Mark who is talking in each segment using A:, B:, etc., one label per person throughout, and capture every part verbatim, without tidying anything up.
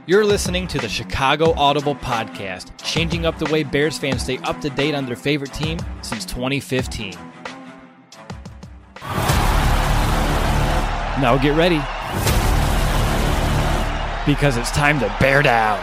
A: You're listening to the Chicago Audible Podcast, changing up the way Bears fans stay up to date on their favorite team since twenty fifteen. Now get ready, because it's time to bear down.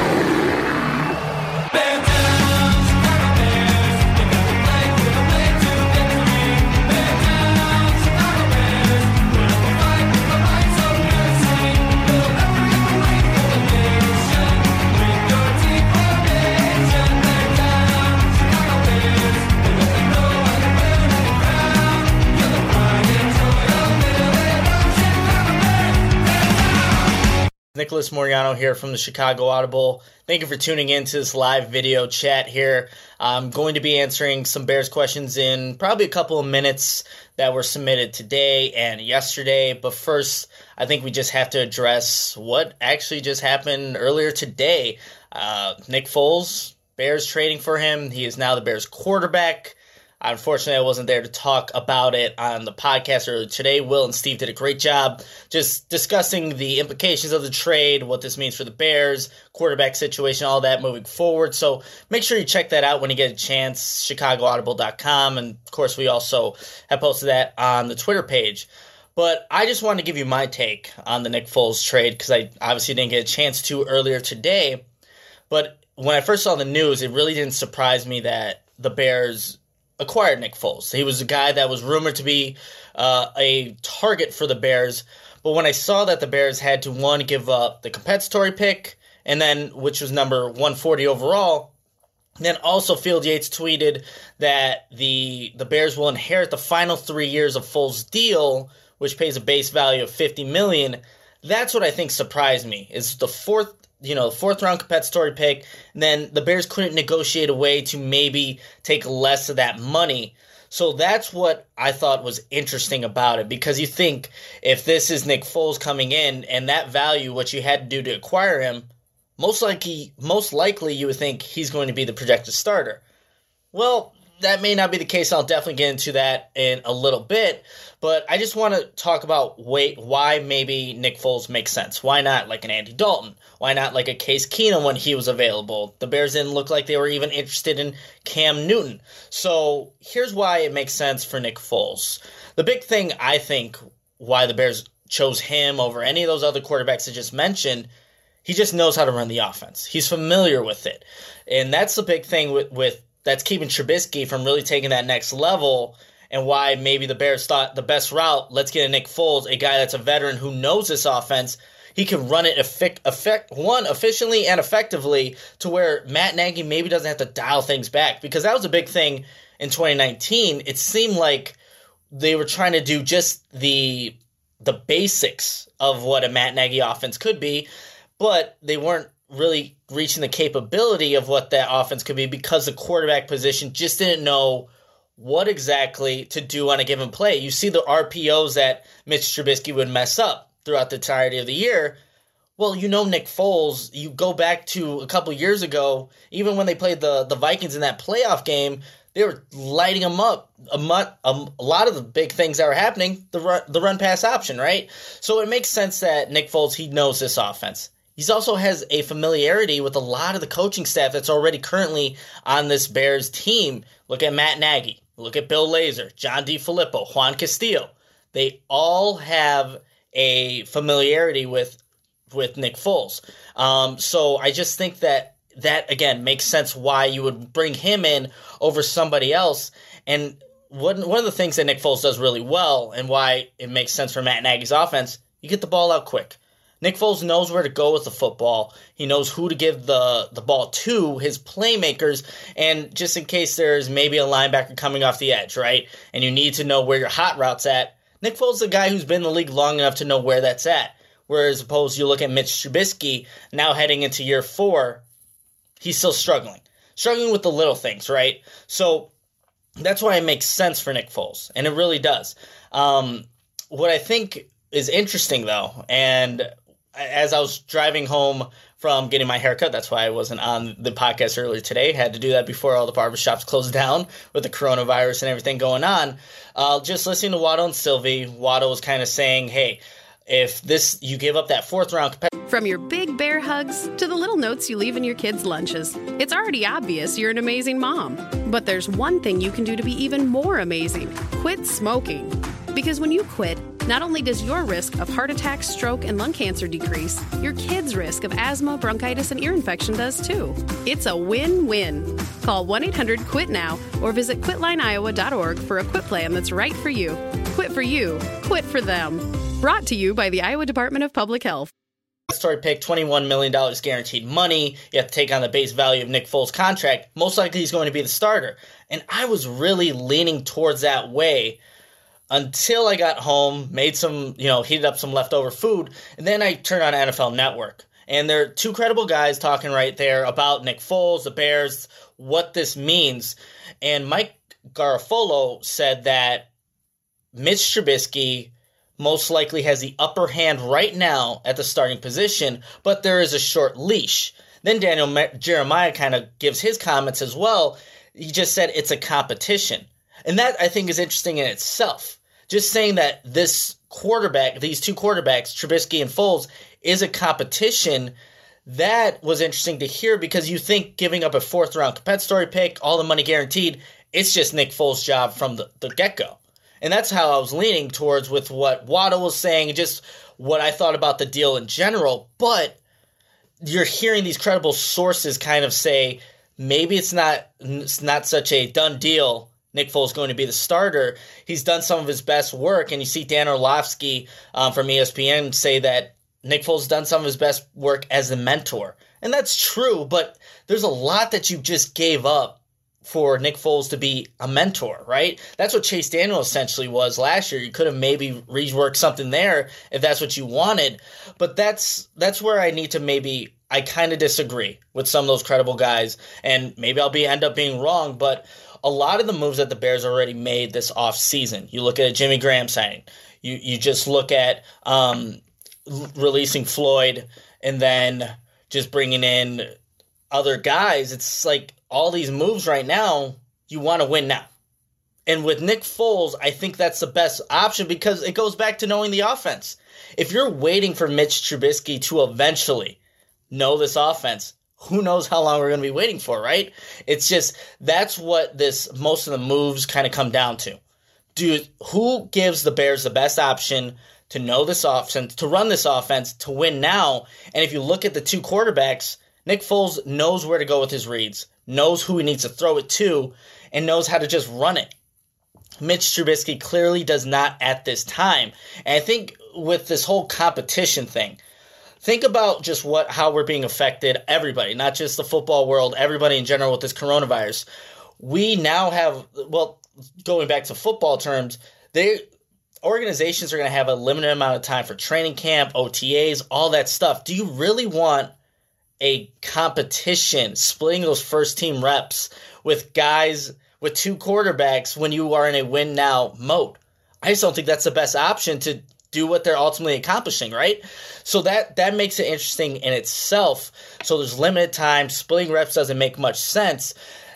B: Nicholas Moriano here from the Chicago Audible. Thank you for tuning in to this live video chat here. I'm going to be answering some Bears questions in probably a couple of minutes that were submitted today and yesterday. But first, I think we just have to address what actually just happened earlier today. Uh, Nick Foles, Bears trading for him. He is now the Bears quarterback. Unfortunately, I wasn't there to talk about it on the podcast earlier today. Will and Steve did a great job just discussing the implications of the trade, what this means for the Bears, quarterback situation, all that moving forward. So make sure you check that out when you get a chance, chicago audible dot com. And, of course, we also have posted that on the Twitter page. But I just wanted to give you my take on the Nick Foles trade because I obviously didn't get a chance to earlier today. But when I first saw the news, it really didn't surprise me that the Bears acquired Nick Foles. He was a guy that was rumored to be uh, a target for the Bears, but when I saw that the Bears had to, one, give up the compensatory pick, and then, which was number one forty overall, then also Field Yates tweeted that the the Bears will inherit the final three years of Foles' deal, which pays a base value of fifty million dollars. That's what I think surprised me, is the fourth you know, fourth round compensatory pick, and then the Bears couldn't negotiate a way to maybe take less of that money. So that's what I thought was interesting about it, because you think if this is Nick Foles coming in and that value, what you had to do to acquire him, most likely, most likely you would think he's going to be the projected starter. Well, that may not be the case. I'll definitely get into that in a little bit. But I just want to talk about wait, why maybe Nick Foles makes sense. Why not like an Andy Dalton? Why not like a Case Keenum when he was available? The Bears didn't look like they were even interested in Cam Newton. So here's why it makes sense for Nick Foles. The big thing, I think, why the Bears chose him over any of those other quarterbacks I just mentioned, he just knows how to run the offense. He's familiar with it. And that's the big thing with, with that's keeping Trubisky from really taking that next level, and why maybe the Bears thought the best route, let's get a Nick Foles, a guy that's a veteran who knows this offense. He can run it effect, effect, one, efficiently and effectively to where Matt Nagy maybe doesn't have to dial things back, because that was a big thing in twenty nineteen. It seemed like they were trying to do just the the basics of what a Matt Nagy offense could be, but they weren't really reaching the capability of what that offense could be because the quarterback position just didn't know what exactly to do on a given play. You see the R P Os that Mitch Trubisky would mess up throughout the entirety of the year. Well, you know Nick Foles, you go back to a couple years ago, even when they played the, the Vikings in that playoff game, they were lighting them up. A, a, a lot of the big things that were happening, the run, the run-pass option, right? So it makes sense that Nick Foles, he knows this offense. He also has a familiarity with a lot of the coaching staff that's already currently on this Bears team. Look at Matt Nagy. Look at Bill Lazor, John DeFilippo, Juan Castillo. They all have a familiarity with with Nick Foles. Um, so I just think that that, again, makes sense why you would bring him in over somebody else. And one, one of the things that Nick Foles does really well, and why it makes sense for Matt Nagy's offense, you get the ball out quick. Nick Foles knows where to go with the football. He knows who to give the, the ball to, his playmakers, and just in case there's maybe a linebacker coming off the edge, right, and you need to know where your hot route's at, Nick Foles is a guy who's been in the league long enough to know where that's at. Whereas opposed, you look at Mitch Trubisky, now heading into year four, he's still struggling. Struggling with the little things, right? So that's why it makes sense for Nick Foles, and it really does. Um, what I think is interesting, though, and as I was driving home from getting my haircut, that's why I wasn't on the podcast earlier today. Had to do that before all the barbershops closed down with the coronavirus and everything going on. Uh, just listening to Waddle and Sylvie, Waddle was kind of saying, hey, if this you give up that fourth round.
C: From your big From bear hugs to the little notes you leave in your kids' lunches, it's already obvious you're an amazing mom. But there's one thing you can do to be even more amazing. Quit smoking. Because when you quit, not only does your risk of heart attack, stroke, and lung cancer decrease, your kids' risk of asthma, bronchitis, and ear infection does too. It's a win-win. Call one eight hundred quit now or visit quit line iowa dot org for a quit plan that's right for you. Quit for you. Quit for them. Brought to you by the Iowa Department of Public Health.
B: Story pick, twenty-one million dollars guaranteed money. You have to take on the base value of Nick Foles' contract. Most likely he's going to be the starter. And I was really leaning towards that way until I got home, made some, you know, heated up some leftover food, and then I turned on N F L Network. And there are two credible guys talking right there about Nick Foles, the Bears, what this means. And Mike Garafolo said that Mitch Trubisky most likely has the upper hand right now at the starting position, but there is a short leash. Then Daniel Jeremiah kind of gives his comments as well. He just said it's a competition. And that, I think, is interesting in itself. Just saying that this quarterback, these two quarterbacks, Trubisky and Foles, is a competition, that was interesting to hear because you think giving up a fourth-round compensatory pick, all the money guaranteed, it's just Nick Foles' job from the, the get-go. And that's how I was leaning towards with what Waddle was saying, just what I thought about the deal in general. But you're hearing these credible sources kind of say maybe it's not it's not such a done deal. Nick Foles going to be the starter. He's done some of his best work, and you see Dan Orlovsky um, from E S P N say that Nick Foles has done some of his best work as a mentor. And that's true, but there's a lot that you just gave up for Nick Foles to be a mentor, right? That's what Chase Daniel essentially was last year. You could have maybe reworked something there if that's what you wanted. But that's that's where I need to maybe, I kind of disagree with some of those credible guys. And maybe I'll be end up being wrong, but a lot of the moves that the Bears already made this offseason, you look at a Jimmy Graham signing, you, you just look at um, releasing Floyd and then just bringing in other guys. It's like all these moves right now, you want to win now. And with Nick Foles, I think that's the best option because it goes back to knowing the offense. If you're waiting for Mitch Trubisky to eventually know this offense, who knows how long we're going to be waiting for, right? It's just, that's what this, most of the moves kind of come down to. Do, who gives the Bears the best option to know this offense, to run this offense, to win now? And if you look at the two quarterbacks, Nick Foles knows where to go with his reads, knows who he needs to throw it to, and knows how to just run it. Mitch Trubisky clearly does not at this time. And I think with this whole competition thing, think about just what how we're being affected, everybody, not just the football world, everybody in general with this coronavirus. We now have, well, going back to football terms, they organizations are going to have a limited amount of time for training camp, O T As, all that stuff. Do you really want a competition, splitting those first team reps with guys, with two quarterbacks when you are in a win now mode? I just don't think that's the best option to do what they're ultimately accomplishing, right? So that that makes it interesting in itself. So there's limited time, splitting reps doesn't make much sense.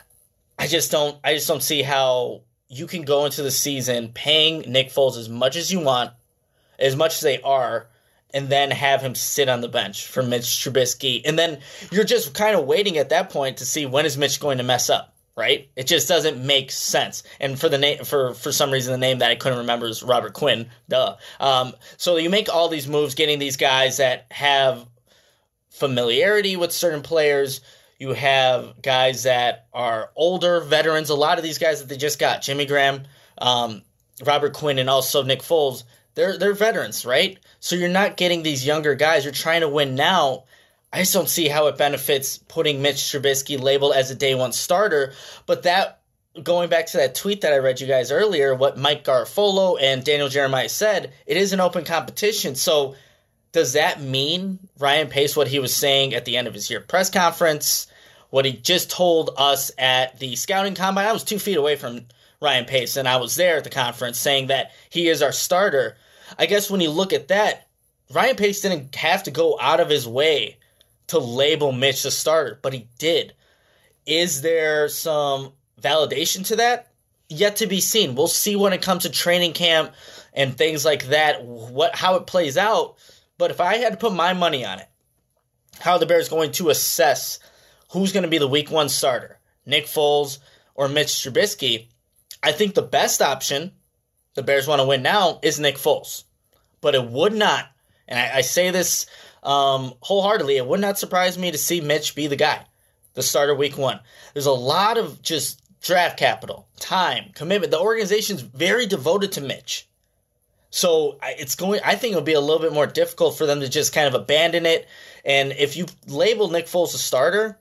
B: I just don't I just don't see how you can go into the season paying Nick Foles as much as you want, as much as they are, and then have him sit on the bench for Mitch Trubisky. And then you're just kind of waiting at that point to see when is Mitch going to mess up, right? It just doesn't make sense. And for the name, for, for some reason, the name that I couldn't remember is Robert Quinn. Duh. Um, so you make all these moves, getting these guys that have familiarity with certain players. You have guys that are older veterans. A lot of these guys that they just got, Jimmy Graham, um, Robert Quinn, and also Nick Foles, they're they're veterans, right? So you're not getting these younger guys. You're trying to win now. I just don't see how it benefits putting Mitch Trubisky labeled as a day one starter. But that, going back to that tweet that I read you guys earlier, what Mike Garafolo and Daniel Jeremiah said, it is an open competition. So does that mean Ryan Pace, what he was saying at the end of his year press conference, what he just told us at the scouting combine? I was two feet away from Ryan Pace, and I was there at the conference saying that he is our starter. I guess when you look at that, Ryan Pace didn't have to go out of his way to label Mitch the starter, but he did. Is there some validation to that? Yet to be seen. We'll see when it comes to training camp and things like that, what how it plays out. But if I had to put my money on it, how the Bears going to assess who's going to be the week one starter, Nick Foles or Mitch Trubisky. I think the best option, the Bears want to win now, is Nick Foles. But it would not, and I, I say this um, wholeheartedly, it would not surprise me to see Mitch be the guy, the starter week one. There's a lot of just draft capital, time, commitment. The organization's very devoted to Mitch. So it's going. I think it'll be a little bit more difficult for them to just kind of abandon it. And if you label Nick Foles a starter,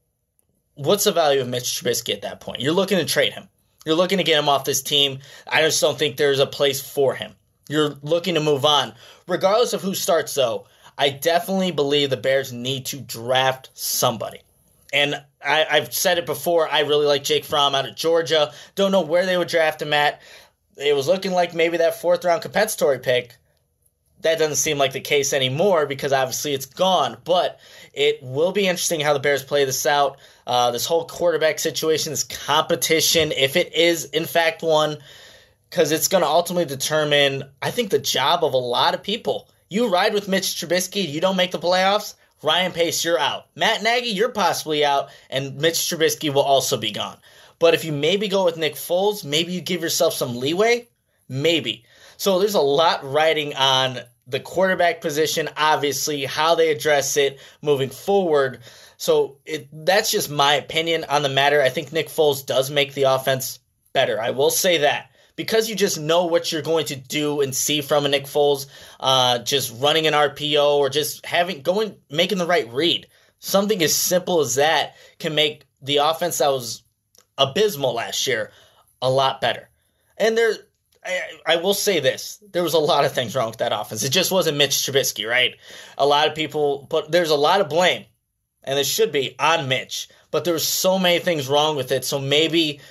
B: what's the value of Mitch Trubisky at that point? You're looking to trade him. You're looking to get him off this team. I just don't think there's a place for him. You're looking to move on. Regardless of who starts, though, I definitely believe the Bears need to draft somebody. And I, I've said it before, I really like Jake Fromm out of Georgia. Don't know where they would draft him at. It was looking like maybe that fourth-round compensatory pick. That doesn't seem like the case anymore because obviously it's gone. But it will be interesting how the Bears play this out. Uh, this whole quarterback situation, this competition, if it is in fact one, because it's going to ultimately determine, I think, the job of a lot of people. You ride with Mitch Trubisky, you don't make the playoffs, Ryan Pace, you're out. Matt Nagy, you're possibly out, and Mitch Trubisky will also be gone. But if you maybe go with Nick Foles, maybe you give yourself some leeway, maybe. So there's a lot riding on the quarterback position, obviously, how they address it moving forward. So it, that's just my opinion on the matter. I think Nick Foles does make the offense better. I will say that. Because you just know what you're going to do and see from a Nick Foles, uh, just running an R P O or just having going making the right read. Something as simple as that can make the offense that was abysmal last year a lot better. And there, I, I will say this: there was a lot of things wrong with that offense. It just wasn't Mitch Trubisky, right? A lot of people, but there's a lot of blame, and it should be on Mitch. But there were so many things wrong with it. So maybe.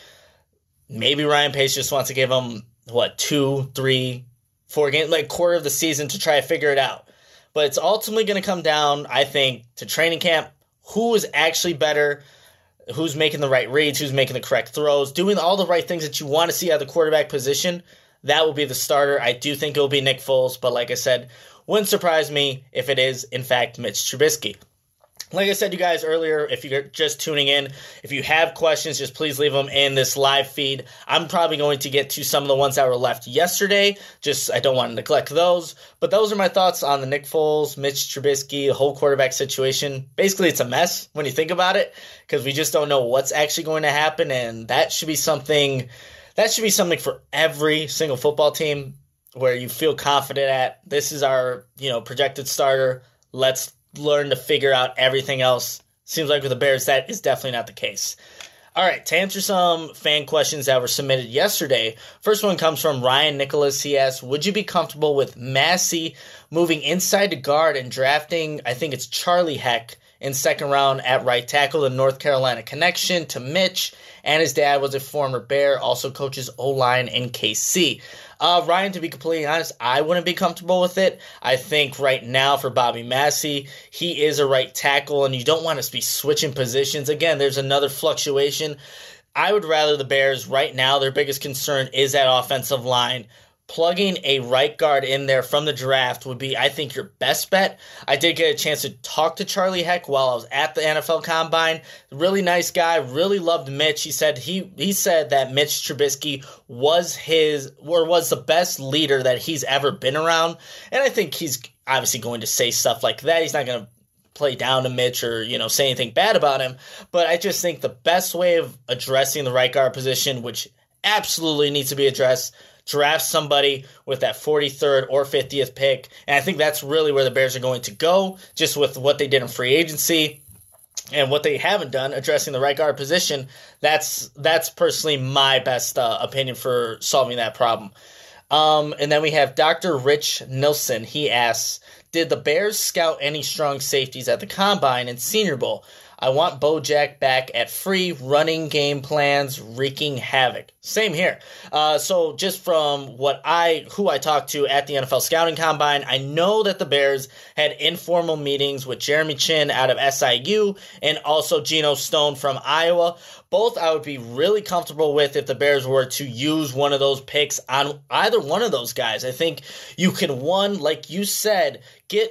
B: Maybe Ryan Pace just wants to give him, what, two, three, four games, like quarter of the season to try to figure it out. But it's ultimately going to come down, I think, to training camp. Who is actually better? Who's making the right reads? Who's making the correct throws? Doing all the right things that you want to see at the quarterback position. That will be the starter. I do think it will be Nick Foles. But like I said, wouldn't surprise me if it is, in fact, Mitch Trubisky. Like I said to you guys earlier, if you're just tuning in, if you have questions, just please leave them in this live feed. I'm probably going to get to some of the ones that were left yesterday. Just I don't want to neglect those. But those are my thoughts on the Nick Foles, Mitch Trubisky, the whole quarterback situation. Basically, it's a mess when you think about it because we just don't know what's actually going to happen. And that should be something that should be something for every single football team where you feel confident at. This is our, you know, projected starter. Let's learn to figure out everything else. Seems like with the Bears, that is definitely not the case. All right, to answer some fan questions that were submitted yesterday, first one comes from Ryan Nicholas. He asks, would you be comfortable with Massey moving inside to guard and drafting, I think it's Charlie Heck, in second round at right tackle, the North Carolina connection to Mitch, and his dad was a former Bear, also coaches O-line in K C. Uh, Ryan, to be completely honest, I wouldn't be comfortable with it. I think right now for Bobby Massey, he is a right tackle, and you don't want to be switching positions. Again, there's another fluctuation. I would rather the Bears right now, their biggest concern is that offensive line. Plugging a right guard in there from the draft would be, I think, your best bet. I did get a chance to talk to Charlie Heck while I was at the N F L Combine. Really nice guy. Really loved Mitch. He said he he said that Mitch Trubisky was his or was the best leader that he's ever been around. And I think he's obviously going to say stuff like that. He's not going to play down to Mitch or, you know, say anything bad about him. But I just think the best way of addressing the right guard position, which absolutely needs to be addressed, draft somebody with that forty-third or fiftieth pick. And I think that's really where the Bears are going to go, just with what they did in free agency and what they haven't done, addressing the right guard position. That's that's personally my best uh, opinion for solving that problem. Um, and then we have Doctor Rich Nilsson. He asks, did the Bears scout any strong safeties at the Combine and Senior Bowl? I want Bojack back at free running game plans, wreaking havoc. Same here. Uh, so just from what I, who I talked to at the N F L Scouting Combine, I know that the Bears had informal meetings with Jeremy Chin out of S I U and also Geno Stone from Iowa. Both I would be really comfortable with if the Bears were to use one of those picks on either one of those guys. I think you can, one, like you said, get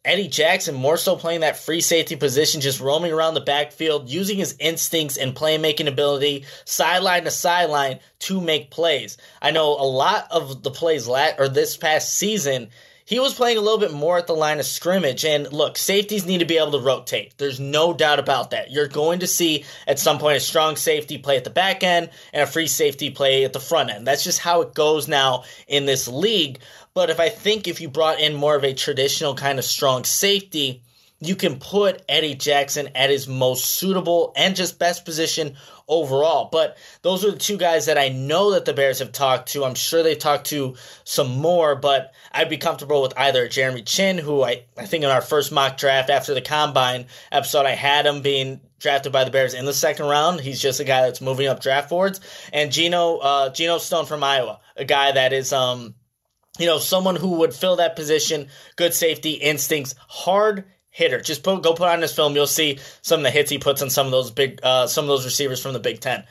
B: Eddie Jackson more so playing that free safety position, just roaming around the backfield, using his instincts and playmaking ability, sideline to sideline, to make plays. I know a lot of the plays lat- or this past season, he was playing a little bit more at the line of scrimmage. And look, safeties need to be able to rotate. There's no doubt about that. You're going to see at some point a strong safety play at the back end and a free safety play at the front end. That's just how it goes now in this league. But if I think if you brought in more of a traditional kind of strong safety, you can put Eddie Jackson at his most suitable and just best position overall. But those are the two guys that I know that the Bears have talked to. I'm sure they've talked to some more, but I'd be comfortable with either Jeremy Chinn, who I, I think in our first mock draft after the Combine episode, I had him being drafted by the Bears in the second round. He's just a guy that's moving up draft boards. And Geno, uh, Geno Stone from Iowa, a guy that is – um. You know, someone who would fill that position, good safety, instincts, hard hitter. Just put, go put on his film. You'll see some of the hits he puts on some of those big, uh, some of those receivers from the Big Ten.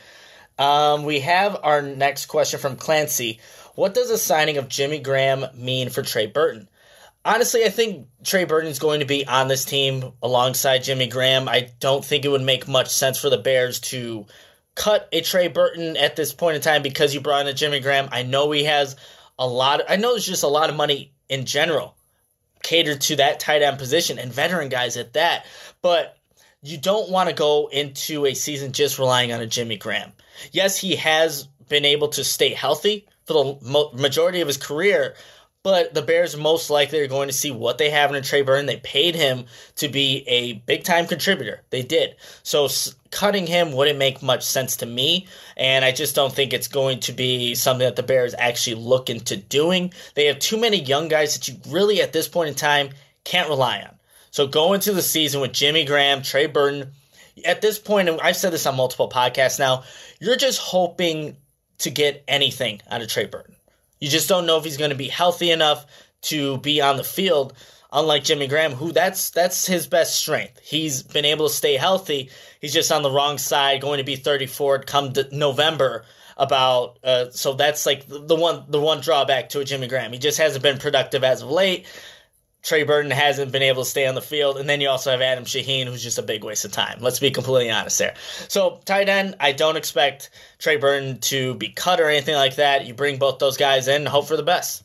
B: Um, we have our next question from Clancy. What does the signing of Jimmy Graham mean for Trey Burton? Honestly, I think Trey Burton is going to be on this team alongside Jimmy Graham. I don't think it would make much sense for the Bears to cut a Trey Burton at this point in time because you brought in a Jimmy Graham. I know he has a lot of, I know there's just a lot of money in general catered to that tight end position and veteran guys at that, but you don't want to go into a season just relying on a Jimmy Graham. Yes, he has been able to stay healthy for the mo- majority of his career, but the Bears most likely are going to see what they have in a Trey Burton. They paid him to be a big-time contributor. They did. So s- cutting him wouldn't make much sense to me, and I just don't think it's going to be something that the Bears actually look into doing. They have too many young guys that you really, at this point in time, can't rely on. So go into the season with Jimmy Graham, Trey Burton. At this point, and I've said this on multiple podcasts now, you're just hoping to get anything out of Trey Burton. You just don't know if he's going to be healthy enough to be on the field, unlike Jimmy Graham, who that's that's his best strength. He's been able to stay healthy. He's just on the wrong side, going to be thirty-four come November. About uh, so that's like the one the one drawback to a Jimmy Graham. He just hasn't been productive as of late. Trey Burton hasn't been able to stay on the field. And then you also have Adam Shaheen, who's just a big waste of time. Let's be completely honest there. So tight end, I don't expect Trey Burton to be cut or anything like that. You bring both those guys in and hope for the best.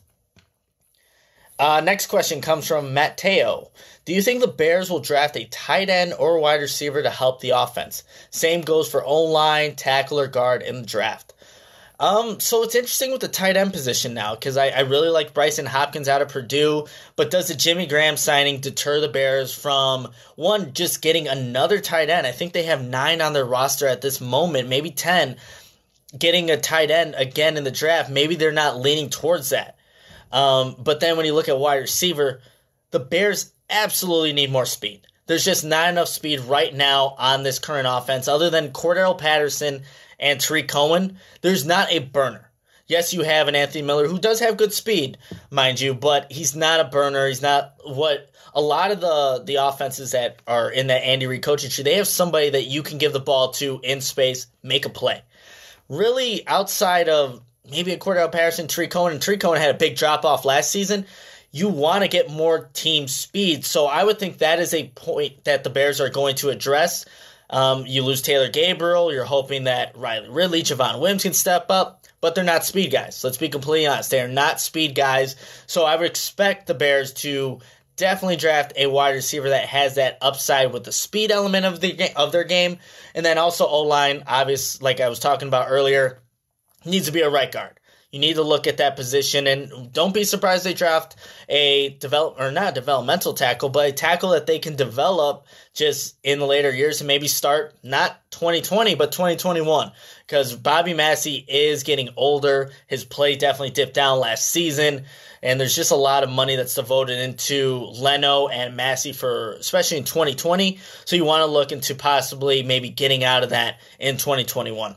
B: Uh, next question comes from Matteo. Do you think the Bears will draft a tight end or wide receiver to help the offense? Same goes for O-line, tackle, or guard in the draft. Um, so it's interesting with the tight end position now because I, I really like Bryson Hopkins out of Purdue, but does the Jimmy Graham signing deter the Bears from, one, just getting another tight end? I think they have nine on their roster at this moment, maybe ten, getting a tight end again in the draft. Maybe they're not leaning towards that. Um, but then when you look at wide receiver, the Bears absolutely need more speed. There's just not enough speed right now on this current offense other than Cordell Patterson and Tariq Cohen. There's not a burner. Yes, you have an Anthony Miller who does have good speed, mind you, but he's not a burner. He's not what a lot of the, the offenses that are in that Andy Reid coaching tree, they have somebody that you can give the ball to in space, make a play. Really, outside of maybe a Cordell Patterson, Tariq Cohen, and Tariq Cohen had a big drop-off last season, you want to get more team speed. So I would think that is a point that the Bears are going to address. Um, you lose Taylor Gabriel. You're hoping that Riley Ridley, Javon Wims can step up, but they're not speed guys. Let's be completely honest. They are not speed guys. So I would expect the Bears to definitely draft a wide receiver that has that upside with the speed element of the of their game. And then also O-line, obvious, like I was talking about earlier, needs to be a right guard. You need to look at that position, and don't be surprised they draft a develop or not a developmental tackle, but a tackle that they can develop just in the later years and maybe start not twenty twenty, but twenty twenty-one. Because Bobby Massey is getting older. His play definitely dipped down last season, and there's just a lot of money that's devoted into Leno and Massey for, especially in twenty twenty. So you want to look into possibly maybe getting out of that in twenty twenty-one.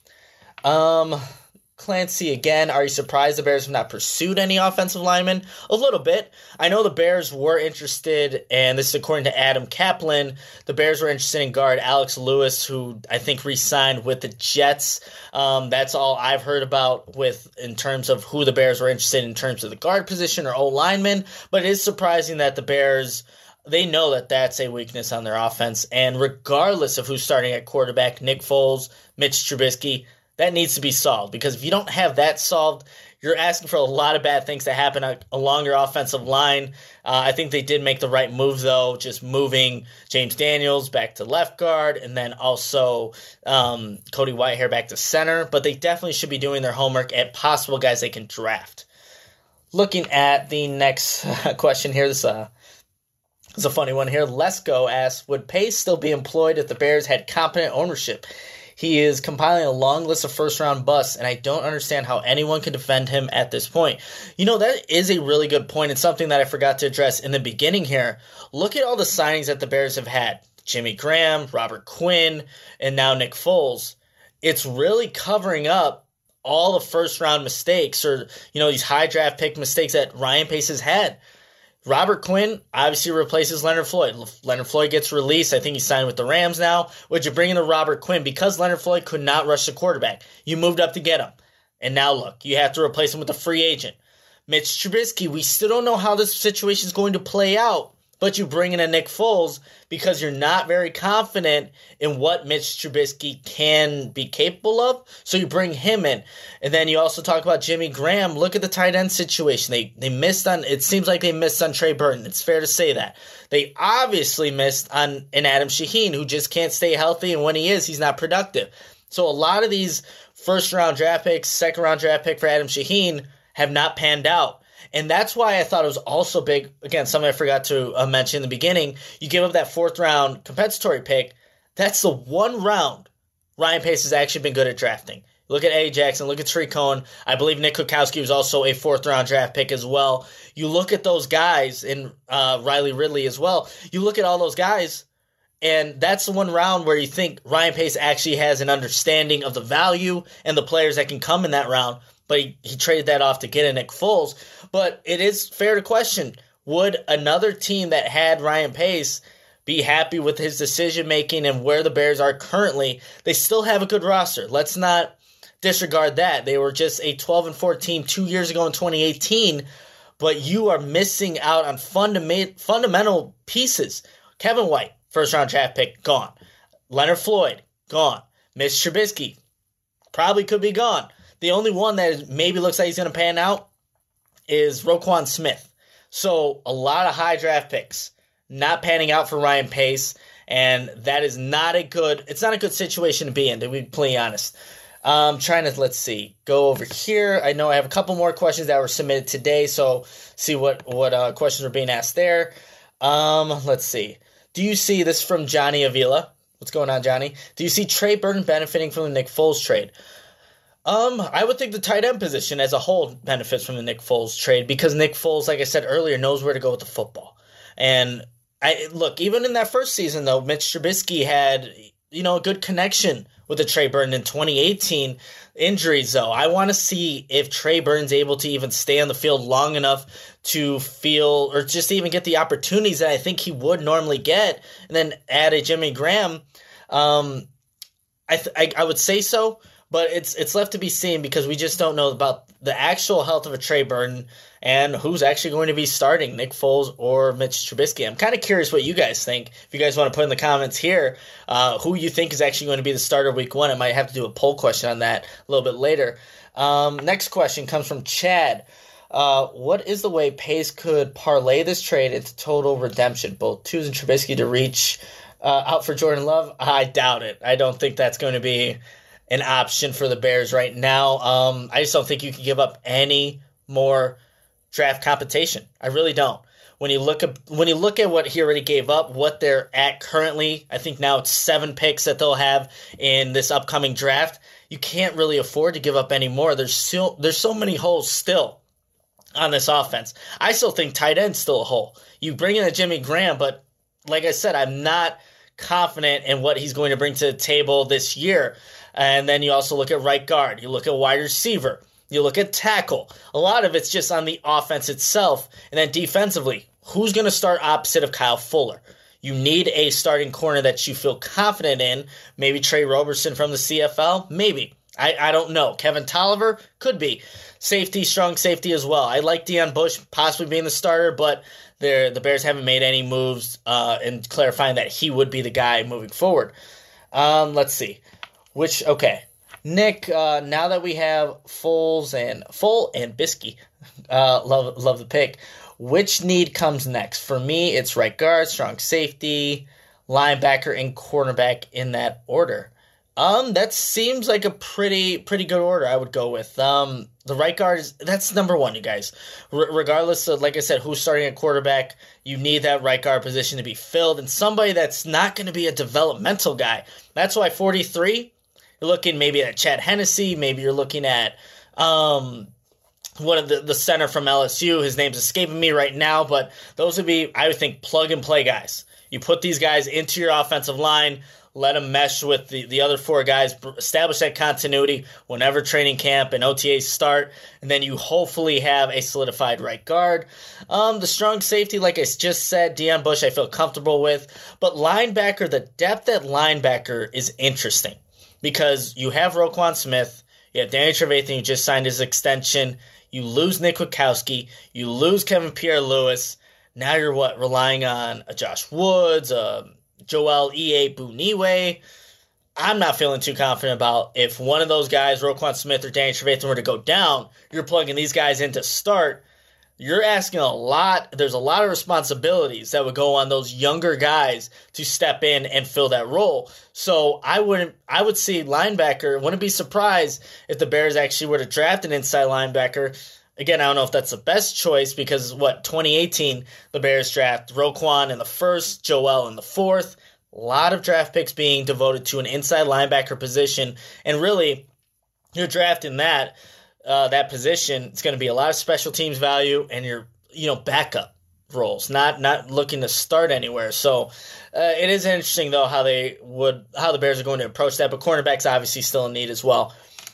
B: Um. Clancy again, are you surprised the Bears have not pursued any offensive linemen? A little bit. I know the Bears were interested, and this is according to Adam Kaplan, the Bears were interested in guard Alex Lewis, who I think re-signed with the Jets. Um, that's all I've heard about with in terms of who the Bears were interested in in terms of the guard position or O-lineman, but it is surprising that the Bears they know that that's a weakness on their offense. And regardless of who's starting at quarterback, Nick Foles, Mitch Trubisky, that needs to be solved. Because if you don't have that solved, you're asking for a lot of bad things to happen along your offensive line. Uh, I think they did make the right move, though, just moving James Daniels back to left guard and then also um, Cody Whitehair back to center. But they definitely should be doing their homework at possible guys they can draft. Looking at the next question here, this, uh, this is a funny one here. Lesko asks, would Pace still be employed if the Bears had competent ownership? He is compiling a long list of first-round busts, and I don't understand how anyone can defend him at this point. You know, that is a really good point. It's something that I forgot to address in the beginning here. Look at all the signings that the Bears have had. Jimmy Graham, Robert Quinn, and now Nick Foles. It's really covering up all the first-round mistakes or, you know, these high draft pick mistakes that Ryan Pace has had. Robert Quinn obviously replaces Leonard Floyd. Leonard Floyd gets released. I think he's signed with the Rams now. Would you bring in the Robert Quinn? Because Leonard Floyd could not rush the quarterback. You moved up to get him. And now look, you have to replace him with a free agent. Mitch Trubisky, we still don't know how this situation is going to play out. But you bring in a Nick Foles because you're not very confident in what Mitch Trubisky can be capable of. So you bring him in. And then you also talk about Jimmy Graham. Look at the tight end situation. They they missed on, it seems like they missed on Trey Burton. It's fair to say that. They obviously missed on an Adam Shaheen who just can't stay healthy. And when he is, he's not productive. So a lot of these first round draft picks, second round draft pick for Adam Shaheen have not panned out. And that's why I thought it was also big. Again, something I forgot to uh, mention in the beginning. You give up that fourth round compensatory pick. That's the one round Ryan Pace has actually been good at drafting. Look at Eddie Jackson. Look at Tariq Cohen. I believe Nick Kwiatkowski was also a fourth round draft pick as well. You look at those guys, and uh, Riley Ridley as well. You look at all those guys, and that's the one round where you think Ryan Pace actually has an understanding of the value and the players that can come in that round. But he, he traded that off to get a Nick Foles. But it is fair to question, would another team that had Ryan Pace be happy with his decision-making and where the Bears are currently? They still have a good roster. Let's not disregard that. They were just a twelve and fourteen two years ago in twenty eighteen, but you are missing out on fundament, fundamental pieces. Kevin White, first-round draft pick, gone. Leonard Floyd, gone. Mitch Trubisky, probably could be gone. The only one that maybe looks like he's going to pan out is Roquan Smith. So a lot of high draft picks not panning out for Ryan Pace, and that is not a good. It's not a good situation to be in, to be completely honest. Um, trying to let's see, go over here. I know I have a couple more questions that were submitted today, so see what what uh, questions were being asked there. Um, let's see. Do you see this from Johnny Avila? What's going on, Johnny? Do you see Trey Burton benefiting from the Nick Foles trade? Um, I would think the tight end position as a whole benefits from the Nick Foles trade because Nick Foles, like I said earlier, knows where to go with the football. And I look, even in that first season, though, Mitch Trubisky had, you know, a good connection with the Trey Burton in twenty eighteen. Injuries, though, I want to see if Trey Burton's able to even stay on the field long enough to feel or just even get the opportunities that I think he would normally get, and then add a Jimmy Graham. Um, I, th- I I would say so. But it's it's left to be seen because we just don't know about the actual health of a Trey Burton and who's actually going to be starting, Nick Foles or Mitch Trubisky. I'm kind of curious what you guys think. If you guys want to put in the comments here uh, who you think is actually going to be the starter week one. I might have to do a poll question on that a little bit later. Um, next question comes from Chad. Uh, what is the way Pace could parlay this trade into total redemption? Both choosing Trubisky to reach uh, out for Jordan Love? I doubt it. I don't think that's going to be an option for the Bears right now. Um, I just don't think you can give up any more draft competition. I really don't. When you look at when you look at what he already gave up, what they're at currently, I think now it's seven picks that they'll have in this upcoming draft. You can't really afford to give up any more. There's still there's so many holes still on this offense. I still think tight end's still a hole. You bring in a Jimmy Graham, but like I said, I'm not confident in what he's going to bring to the table this year. And then you also look at right guard. You look at wide receiver. You look at tackle. A lot of it's just on the offense itself. And then defensively, who's going to start opposite of Kyle Fuller? You need a starting corner that you feel confident in. Maybe Trey Roberson from the C F L? Maybe. I, I don't know. Kevin Tolliver could be. Safety, strong safety as well. I like Deon Bush possibly being the starter, but the Bears haven't made any moves uh, in clarifying that he would be the guy moving forward. Um, let's see. Which, okay. Nick, uh, now that we have Foles and Full and Biskey, uh, love love the pick. Which need comes next? For me, it's right guard, strong safety, linebacker, and cornerback in that order. Um, that seems like a pretty pretty good order I would go with. Um, the right guard, is that's number one, you guys. R- regardless of, like I said, who's starting at quarterback, you need that right guard position to be filled, and somebody that's not going to be a developmental guy. That's why forty-three, you're looking maybe at Chad Hennessy, maybe you're looking at um, one of the, the center from L S U. His name's escaping me right now, but those would be, I would think, plug-and-play guys. You put these guys into your offensive line, let them mesh with the, the other four guys, establish that continuity whenever training camp and O T As start, and then you hopefully have a solidified right guard. Um, the strong safety, like I just said, Deon Bush I feel comfortable with, but linebacker, the depth at linebacker is interesting because you have Roquan Smith, you have Danny Trevathan who just signed his extension, you lose Nick Witkowski, you lose Kevin Pierre-Louis, now you're what, relying on a Josh Woods, a Joel E A Buniwe. I'm not feeling too confident about if one of those guys, Roquan Smith or Danny Trevathan, were to go down, you're plugging these guys in to start. You're asking a lot. There's a lot of responsibilities that would go on those younger guys to step in and fill that role. So I wouldn't, I would see linebacker. Wouldn't be surprised if the Bears actually were to draft an inside linebacker. Again, I don't know if that's the best choice because, what, twenty eighteen, the Bears draft Roquan in the first, Joel in the fourth. A lot of draft picks being devoted to an inside linebacker position. And really, you're drafting that uh, that position. It's going to be a lot of special teams value and your you know backup roles, not not looking to start anywhere. So uh, it is interesting, though, how they would how the Bears are going to approach that. But cornerback's obviously still in need as well.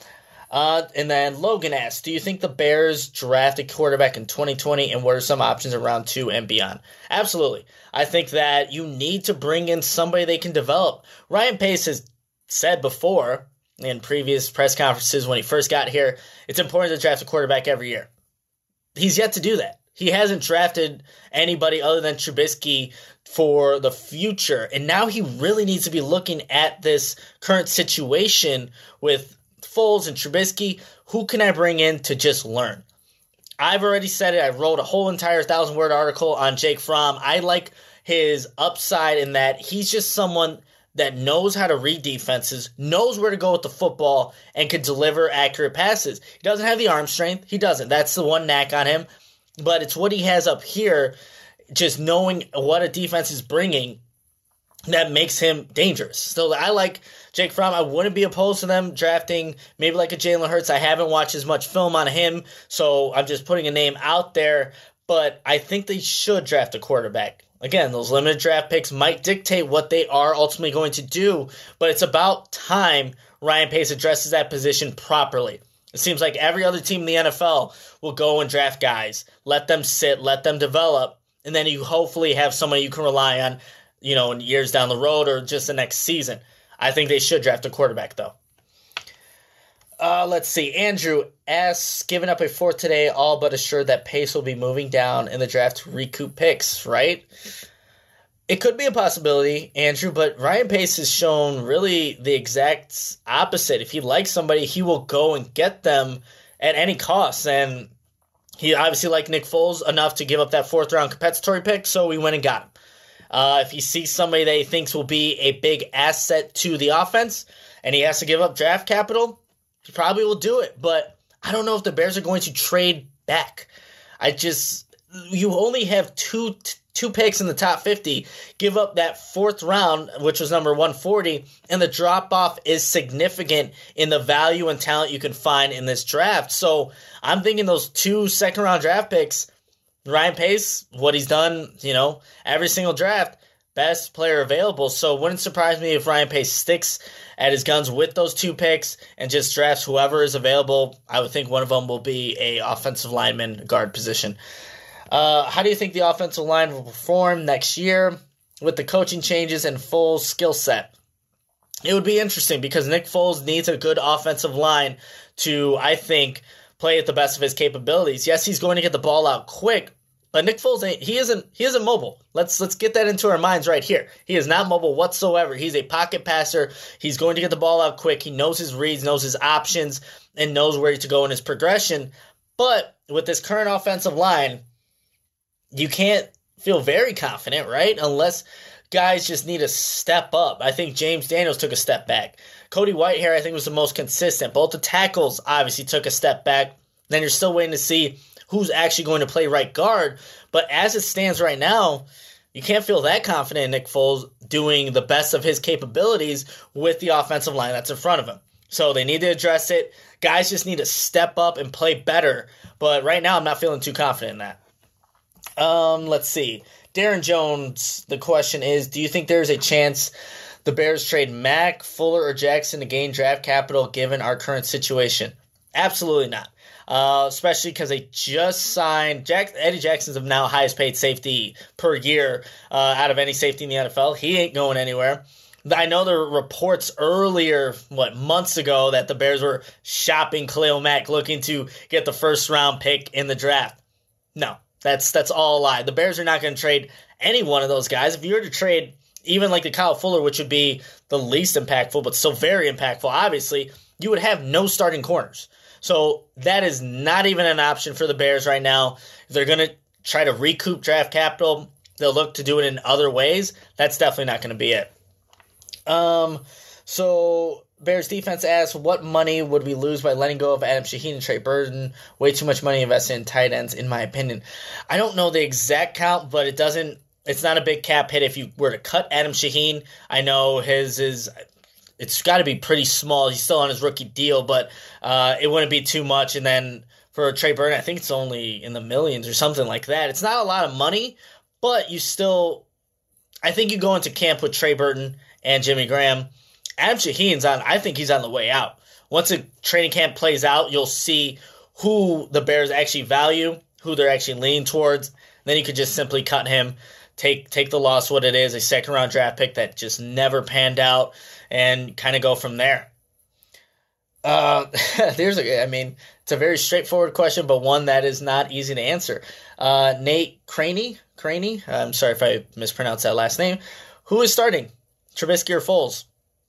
B: Uh, and then Logan asks, do you think the Bears draft a quarterback in twenty twenty, and what are some options around two and beyond? Absolutely. I think that you need to bring in somebody they can develop. Ryan Pace has said before in previous press conferences when he first got here, it's important to draft a quarterback every year. He's yet to do that. He hasn't drafted anybody other than Trubisky for the future, and now he really needs to be looking at this current situation with Foles and Trubisky. Who can I bring in to just learn? I've already said it. I wrote a whole entire thousand-word article on Jake Fromm. I like his upside in that he's just someone that knows how to read defenses, knows where to go with the football, and can deliver accurate passes. He doesn't have the arm strength. He doesn't. That's the one knack on him. But it's what he has up here, just knowing what a defense is bringing, that makes him dangerous. So I like Jake Fromm. I wouldn't be opposed to them drafting maybe like a Jalen Hurts. I haven't watched as much film on him, so I'm just putting a name out there. But I think they should draft a quarterback. Again, those limited draft picks might dictate what they are ultimately going to do, but it's about time Ryan Pace addresses that position properly. It seems like every other team in the N F L will go and draft guys, let them sit, let them develop, and then you hopefully have somebody you can rely on, you know, in years down the road or just the next season. I think they should draft a quarterback, though. Uh, let's see. Andrew asks, giving up a fourth today, all but assured that Pace will be moving down in the draft to recoup picks, right? It could be a possibility, Andrew, but Ryan Pace has shown really the exact opposite. If he likes somebody, he will go and get them at any cost. And he obviously liked Nick Foles enough to give up that fourth-round compensatory pick, so we went and got him. Uh, if he sees somebody that he thinks will be a big asset to the offense and he has to give up draft capital, he probably will do it. But I don't know if the Bears are going to trade back. I just, you only have two two picks in the top fifty. Give up that fourth round, which was number one forty, and the drop-off is significant in the value and talent you can find in this draft. So I'm thinking those two second-round draft picks, Ryan Pace, what he's done, you know, every single draft, best player available. So it wouldn't surprise me if Ryan Pace sticks at his guns with those two picks and just drafts whoever is available. I would think one of them will be a offensive lineman guard position. Uh, how do you think the offensive line will perform next year with the coaching changes and full skill set? it would be interesting because Nick Foles needs a good offensive line to, I think, play at the best of his capabilities. Yes, he's going to get the ball out quick, but Nick Foles ain't, he isn't he isn't mobile. Let's let's get that into our minds right here. He is not mobile whatsoever. He's a pocket passer. He's going to get the ball out quick. He knows his reads, knows his options, and knows where to go in his progression. But with this current offensive line, you can't feel very confident, right? Unless guys just need to step up. I think James Daniels took a step back. Cody Whitehair, I think, was the most consistent. Both the tackles obviously took a step back. Then you're still waiting to see who's actually going to play right guard. But as it stands right now, you can't feel that confident in Nick Foles doing the best of his capabilities with the offensive line that's in front of him. So they need to address it. Guys just need to step up and play better. But right now, I'm not feeling too confident in that. Um, let's see. Darren Jones, the question is, do you think there's a chance the Bears trade Mack, Fuller, or Jackson to gain draft capital given our current situation? Absolutely not. Uh, especially because they just signed Jack, Eddie Jackson's the now highest paid safety per year uh, out of any safety in the N F L. He ain't going anywhere. I know there were reports earlier, what, months ago, that the Bears were shopping Khalil Mack, looking to get the first round pick in the draft. No, that's that's all a lie. The Bears are not going to trade any one of those guys. If you were to trade even like the Kyle Fuller, which would be the least impactful, but still very impactful, obviously, you would have no starting corners. So that is not even an option for the Bears right now. If they're going to try to recoup draft capital, they'll look to do it in other ways. That's definitely not going to be it. Um, so Bears defense asks, what money would we lose by letting go of Adam Shaheen and Trey Burton? Way too much money invested in tight ends, in my opinion. I don't know the exact count, but it doesn't, it's not a big cap hit if you were to cut Adam Shaheen. I know his is, it's got to be pretty small. He's still on his rookie deal, but uh, it wouldn't be too much. And then for Trey Burton, I think it's only in the millions or something like that. It's not a lot of money, but you still, I think you go into camp with Trey Burton and Jimmy Graham. Adam Shaheen's on, I think he's on the way out. Once a training camp plays out, you'll see who the Bears actually value, who they're actually leaning towards. Then you could just simply cut him, take take the loss what it is, a second round draft pick that just never panned out, and kind of go from there. Uh, there's a, I mean, it's a very straightforward question, but one that is not easy to answer. Uh, Nate Craney, Craney, I'm sorry if I mispronounced that last name. Who is starting, Trubisky or Foles?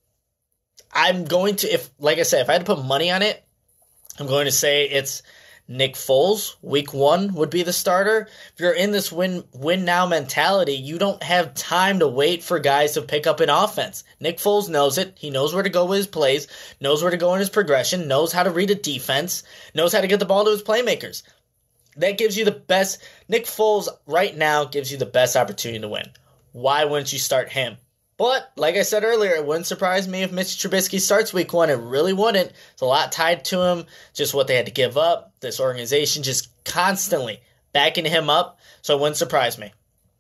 B: I'm going to, if like I said, if I had to put money on it, I'm going to say it's Nick Foles. Week one would be the starter. If you're in this win win now mentality, you don't have time to wait for guys to pick up an offense. Nick Foles knows it. He knows where to go with his plays, knows where to go in his progression, knows how to read a defense, knows how to get the ball to his playmakers. That gives you the best. Nick Foles right now gives you the best opportunity to win. Why wouldn't you start him? But, like I said earlier, it wouldn't surprise me if Mitch Trubisky starts week one. It really wouldn't. It's a lot tied to him, just what they had to give up. This organization just constantly backing him up, so it wouldn't surprise me.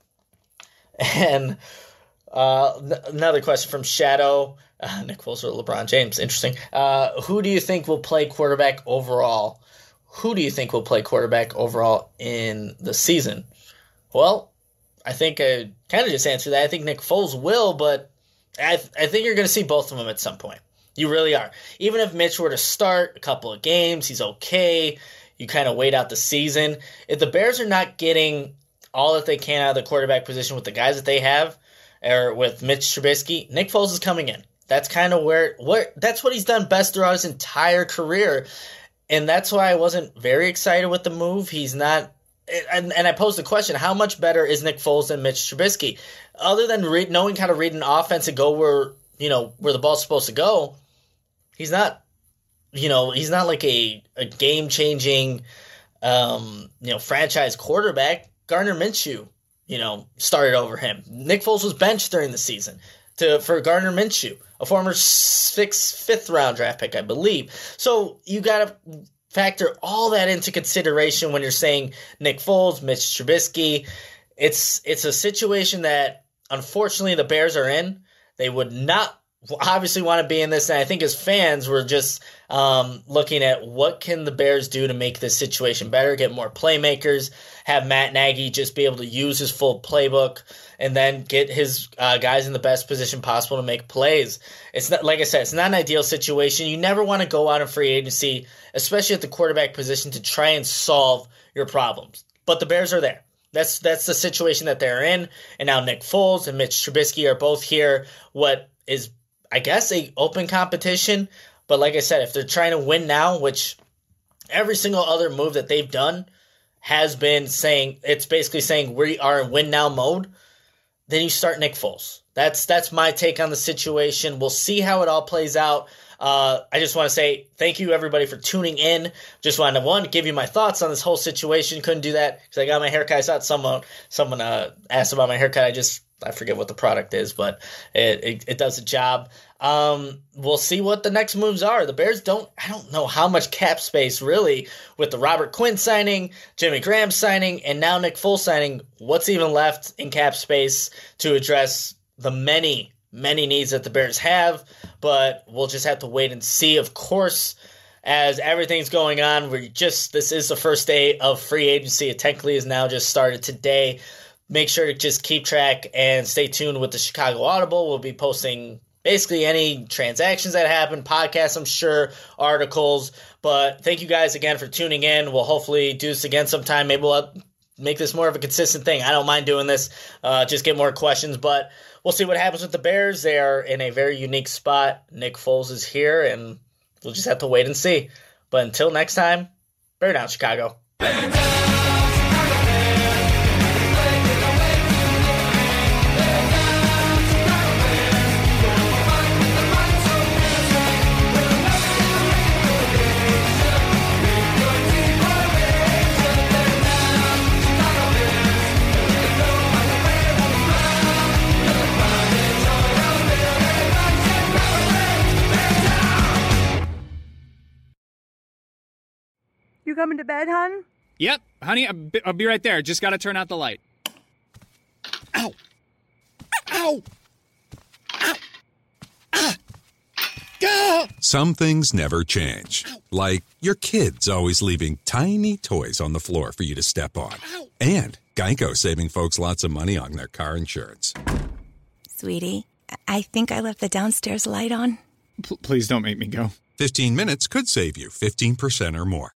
B: And uh, another question from Shadow. Uh, Nick Foles or LeBron James. Interesting. Uh, who do you think will play quarterback overall? Who do you think will play quarterback overall in the season? Well, I think I kind of just answered that. I think Nick Foles will, but I, th- I think you're going to see both of them at some point. You really are. Even if Mitch were to start a couple of games, he's okay. You kind of wait out the season. If the Bears are not getting all that they can out of the quarterback position with the guys that they have, or with Mitch Trubisky, Nick Foles is coming in. That's kind of where, where that's what he's done best throughout his entire career. And that's why I wasn't very excited with the move. He's not. And, and I posed the question, how much better is Nick Foles than Mitch Trubisky? Other than read, knowing how to read an offense and go where, you know, where the ball's supposed to go, he's not, you know, he's not like a, a game-changing, um, you know, franchise quarterback. Gardner Minshew, you know, started over him. Nick Foles was benched during the season to for Gardner Minshew, a former sixth, fifth-round draft pick, I believe. So you got to factor all that into consideration when you're saying Nick Foles, Mitch Trubisky. It's it's a situation that, unfortunately, the Bears are in. They would not obviously want to be in this, and I think as fans, we're just um, looking at what can the Bears do to make this situation better, get more playmakers, have Matt Nagy just be able to use his full playbook, and then get his uh, guys in the best position possible to make plays. It's not, like I said, it's not an ideal situation. You never want to go out in free agency, especially at the quarterback position, to try and solve your problems. But the Bears are there. That's that's the situation that they're in, and now Nick Foles and Mitch Trubisky are both here. What is, I guess, a open competition, but like I said, if they're trying to win now, which every single other move that they've done has been saying, it's basically saying we are in win now mode, then you start Nick Foles. That's that's my take on the situation. We'll see how it all plays out. Uh, I just want to say thank you, everybody, for tuning in. Just wanted to, one, give you my thoughts on this whole situation. Couldn't do that because I got my haircut. I saw someone someone uh, asked about my haircut. I just I forget what the product is, but it it, it does the job. Um, we'll see what the next moves are. The Bears don't – I don't know how much cap space really with the Robert Quinn signing, Jimmy Graham signing, and now Nick Foles signing. What's even left in cap space to address the many – many needs that the Bears have, but we'll just have to wait and see. Of course, as everything's going on, we're just, this is the first day of free agency. It technically is now just started today. Make sure to just keep track and stay tuned with the Chicago Audible. We'll be posting basically any transactions that happen, podcasts, I'm sure, articles, but thank you guys again for tuning in. We'll hopefully do this again sometime. Maybe we'll make this more of a consistent thing. I don't mind doing this, uh, just get more questions, but we'll see what happens with the Bears. They are in a very unique spot. Nick Foles is here, and we'll just have to wait and see. But until next time, bear down, Chicago.
D: You coming to bed, hon?
E: Yep, honey, I'll be, I'll be right there. Just gotta turn out the light. Ow! Ow! Ow! Ah! Ah!
F: Some things never change. Like your kids always leaving tiny toys on the floor for you to step on.
E: Ow!
F: And Geico saving folks lots of money on their car insurance.
G: Sweetie, I think I left the downstairs light on.
E: P- please don't make me go.
F: fifteen minutes could save you fifteen percent or more.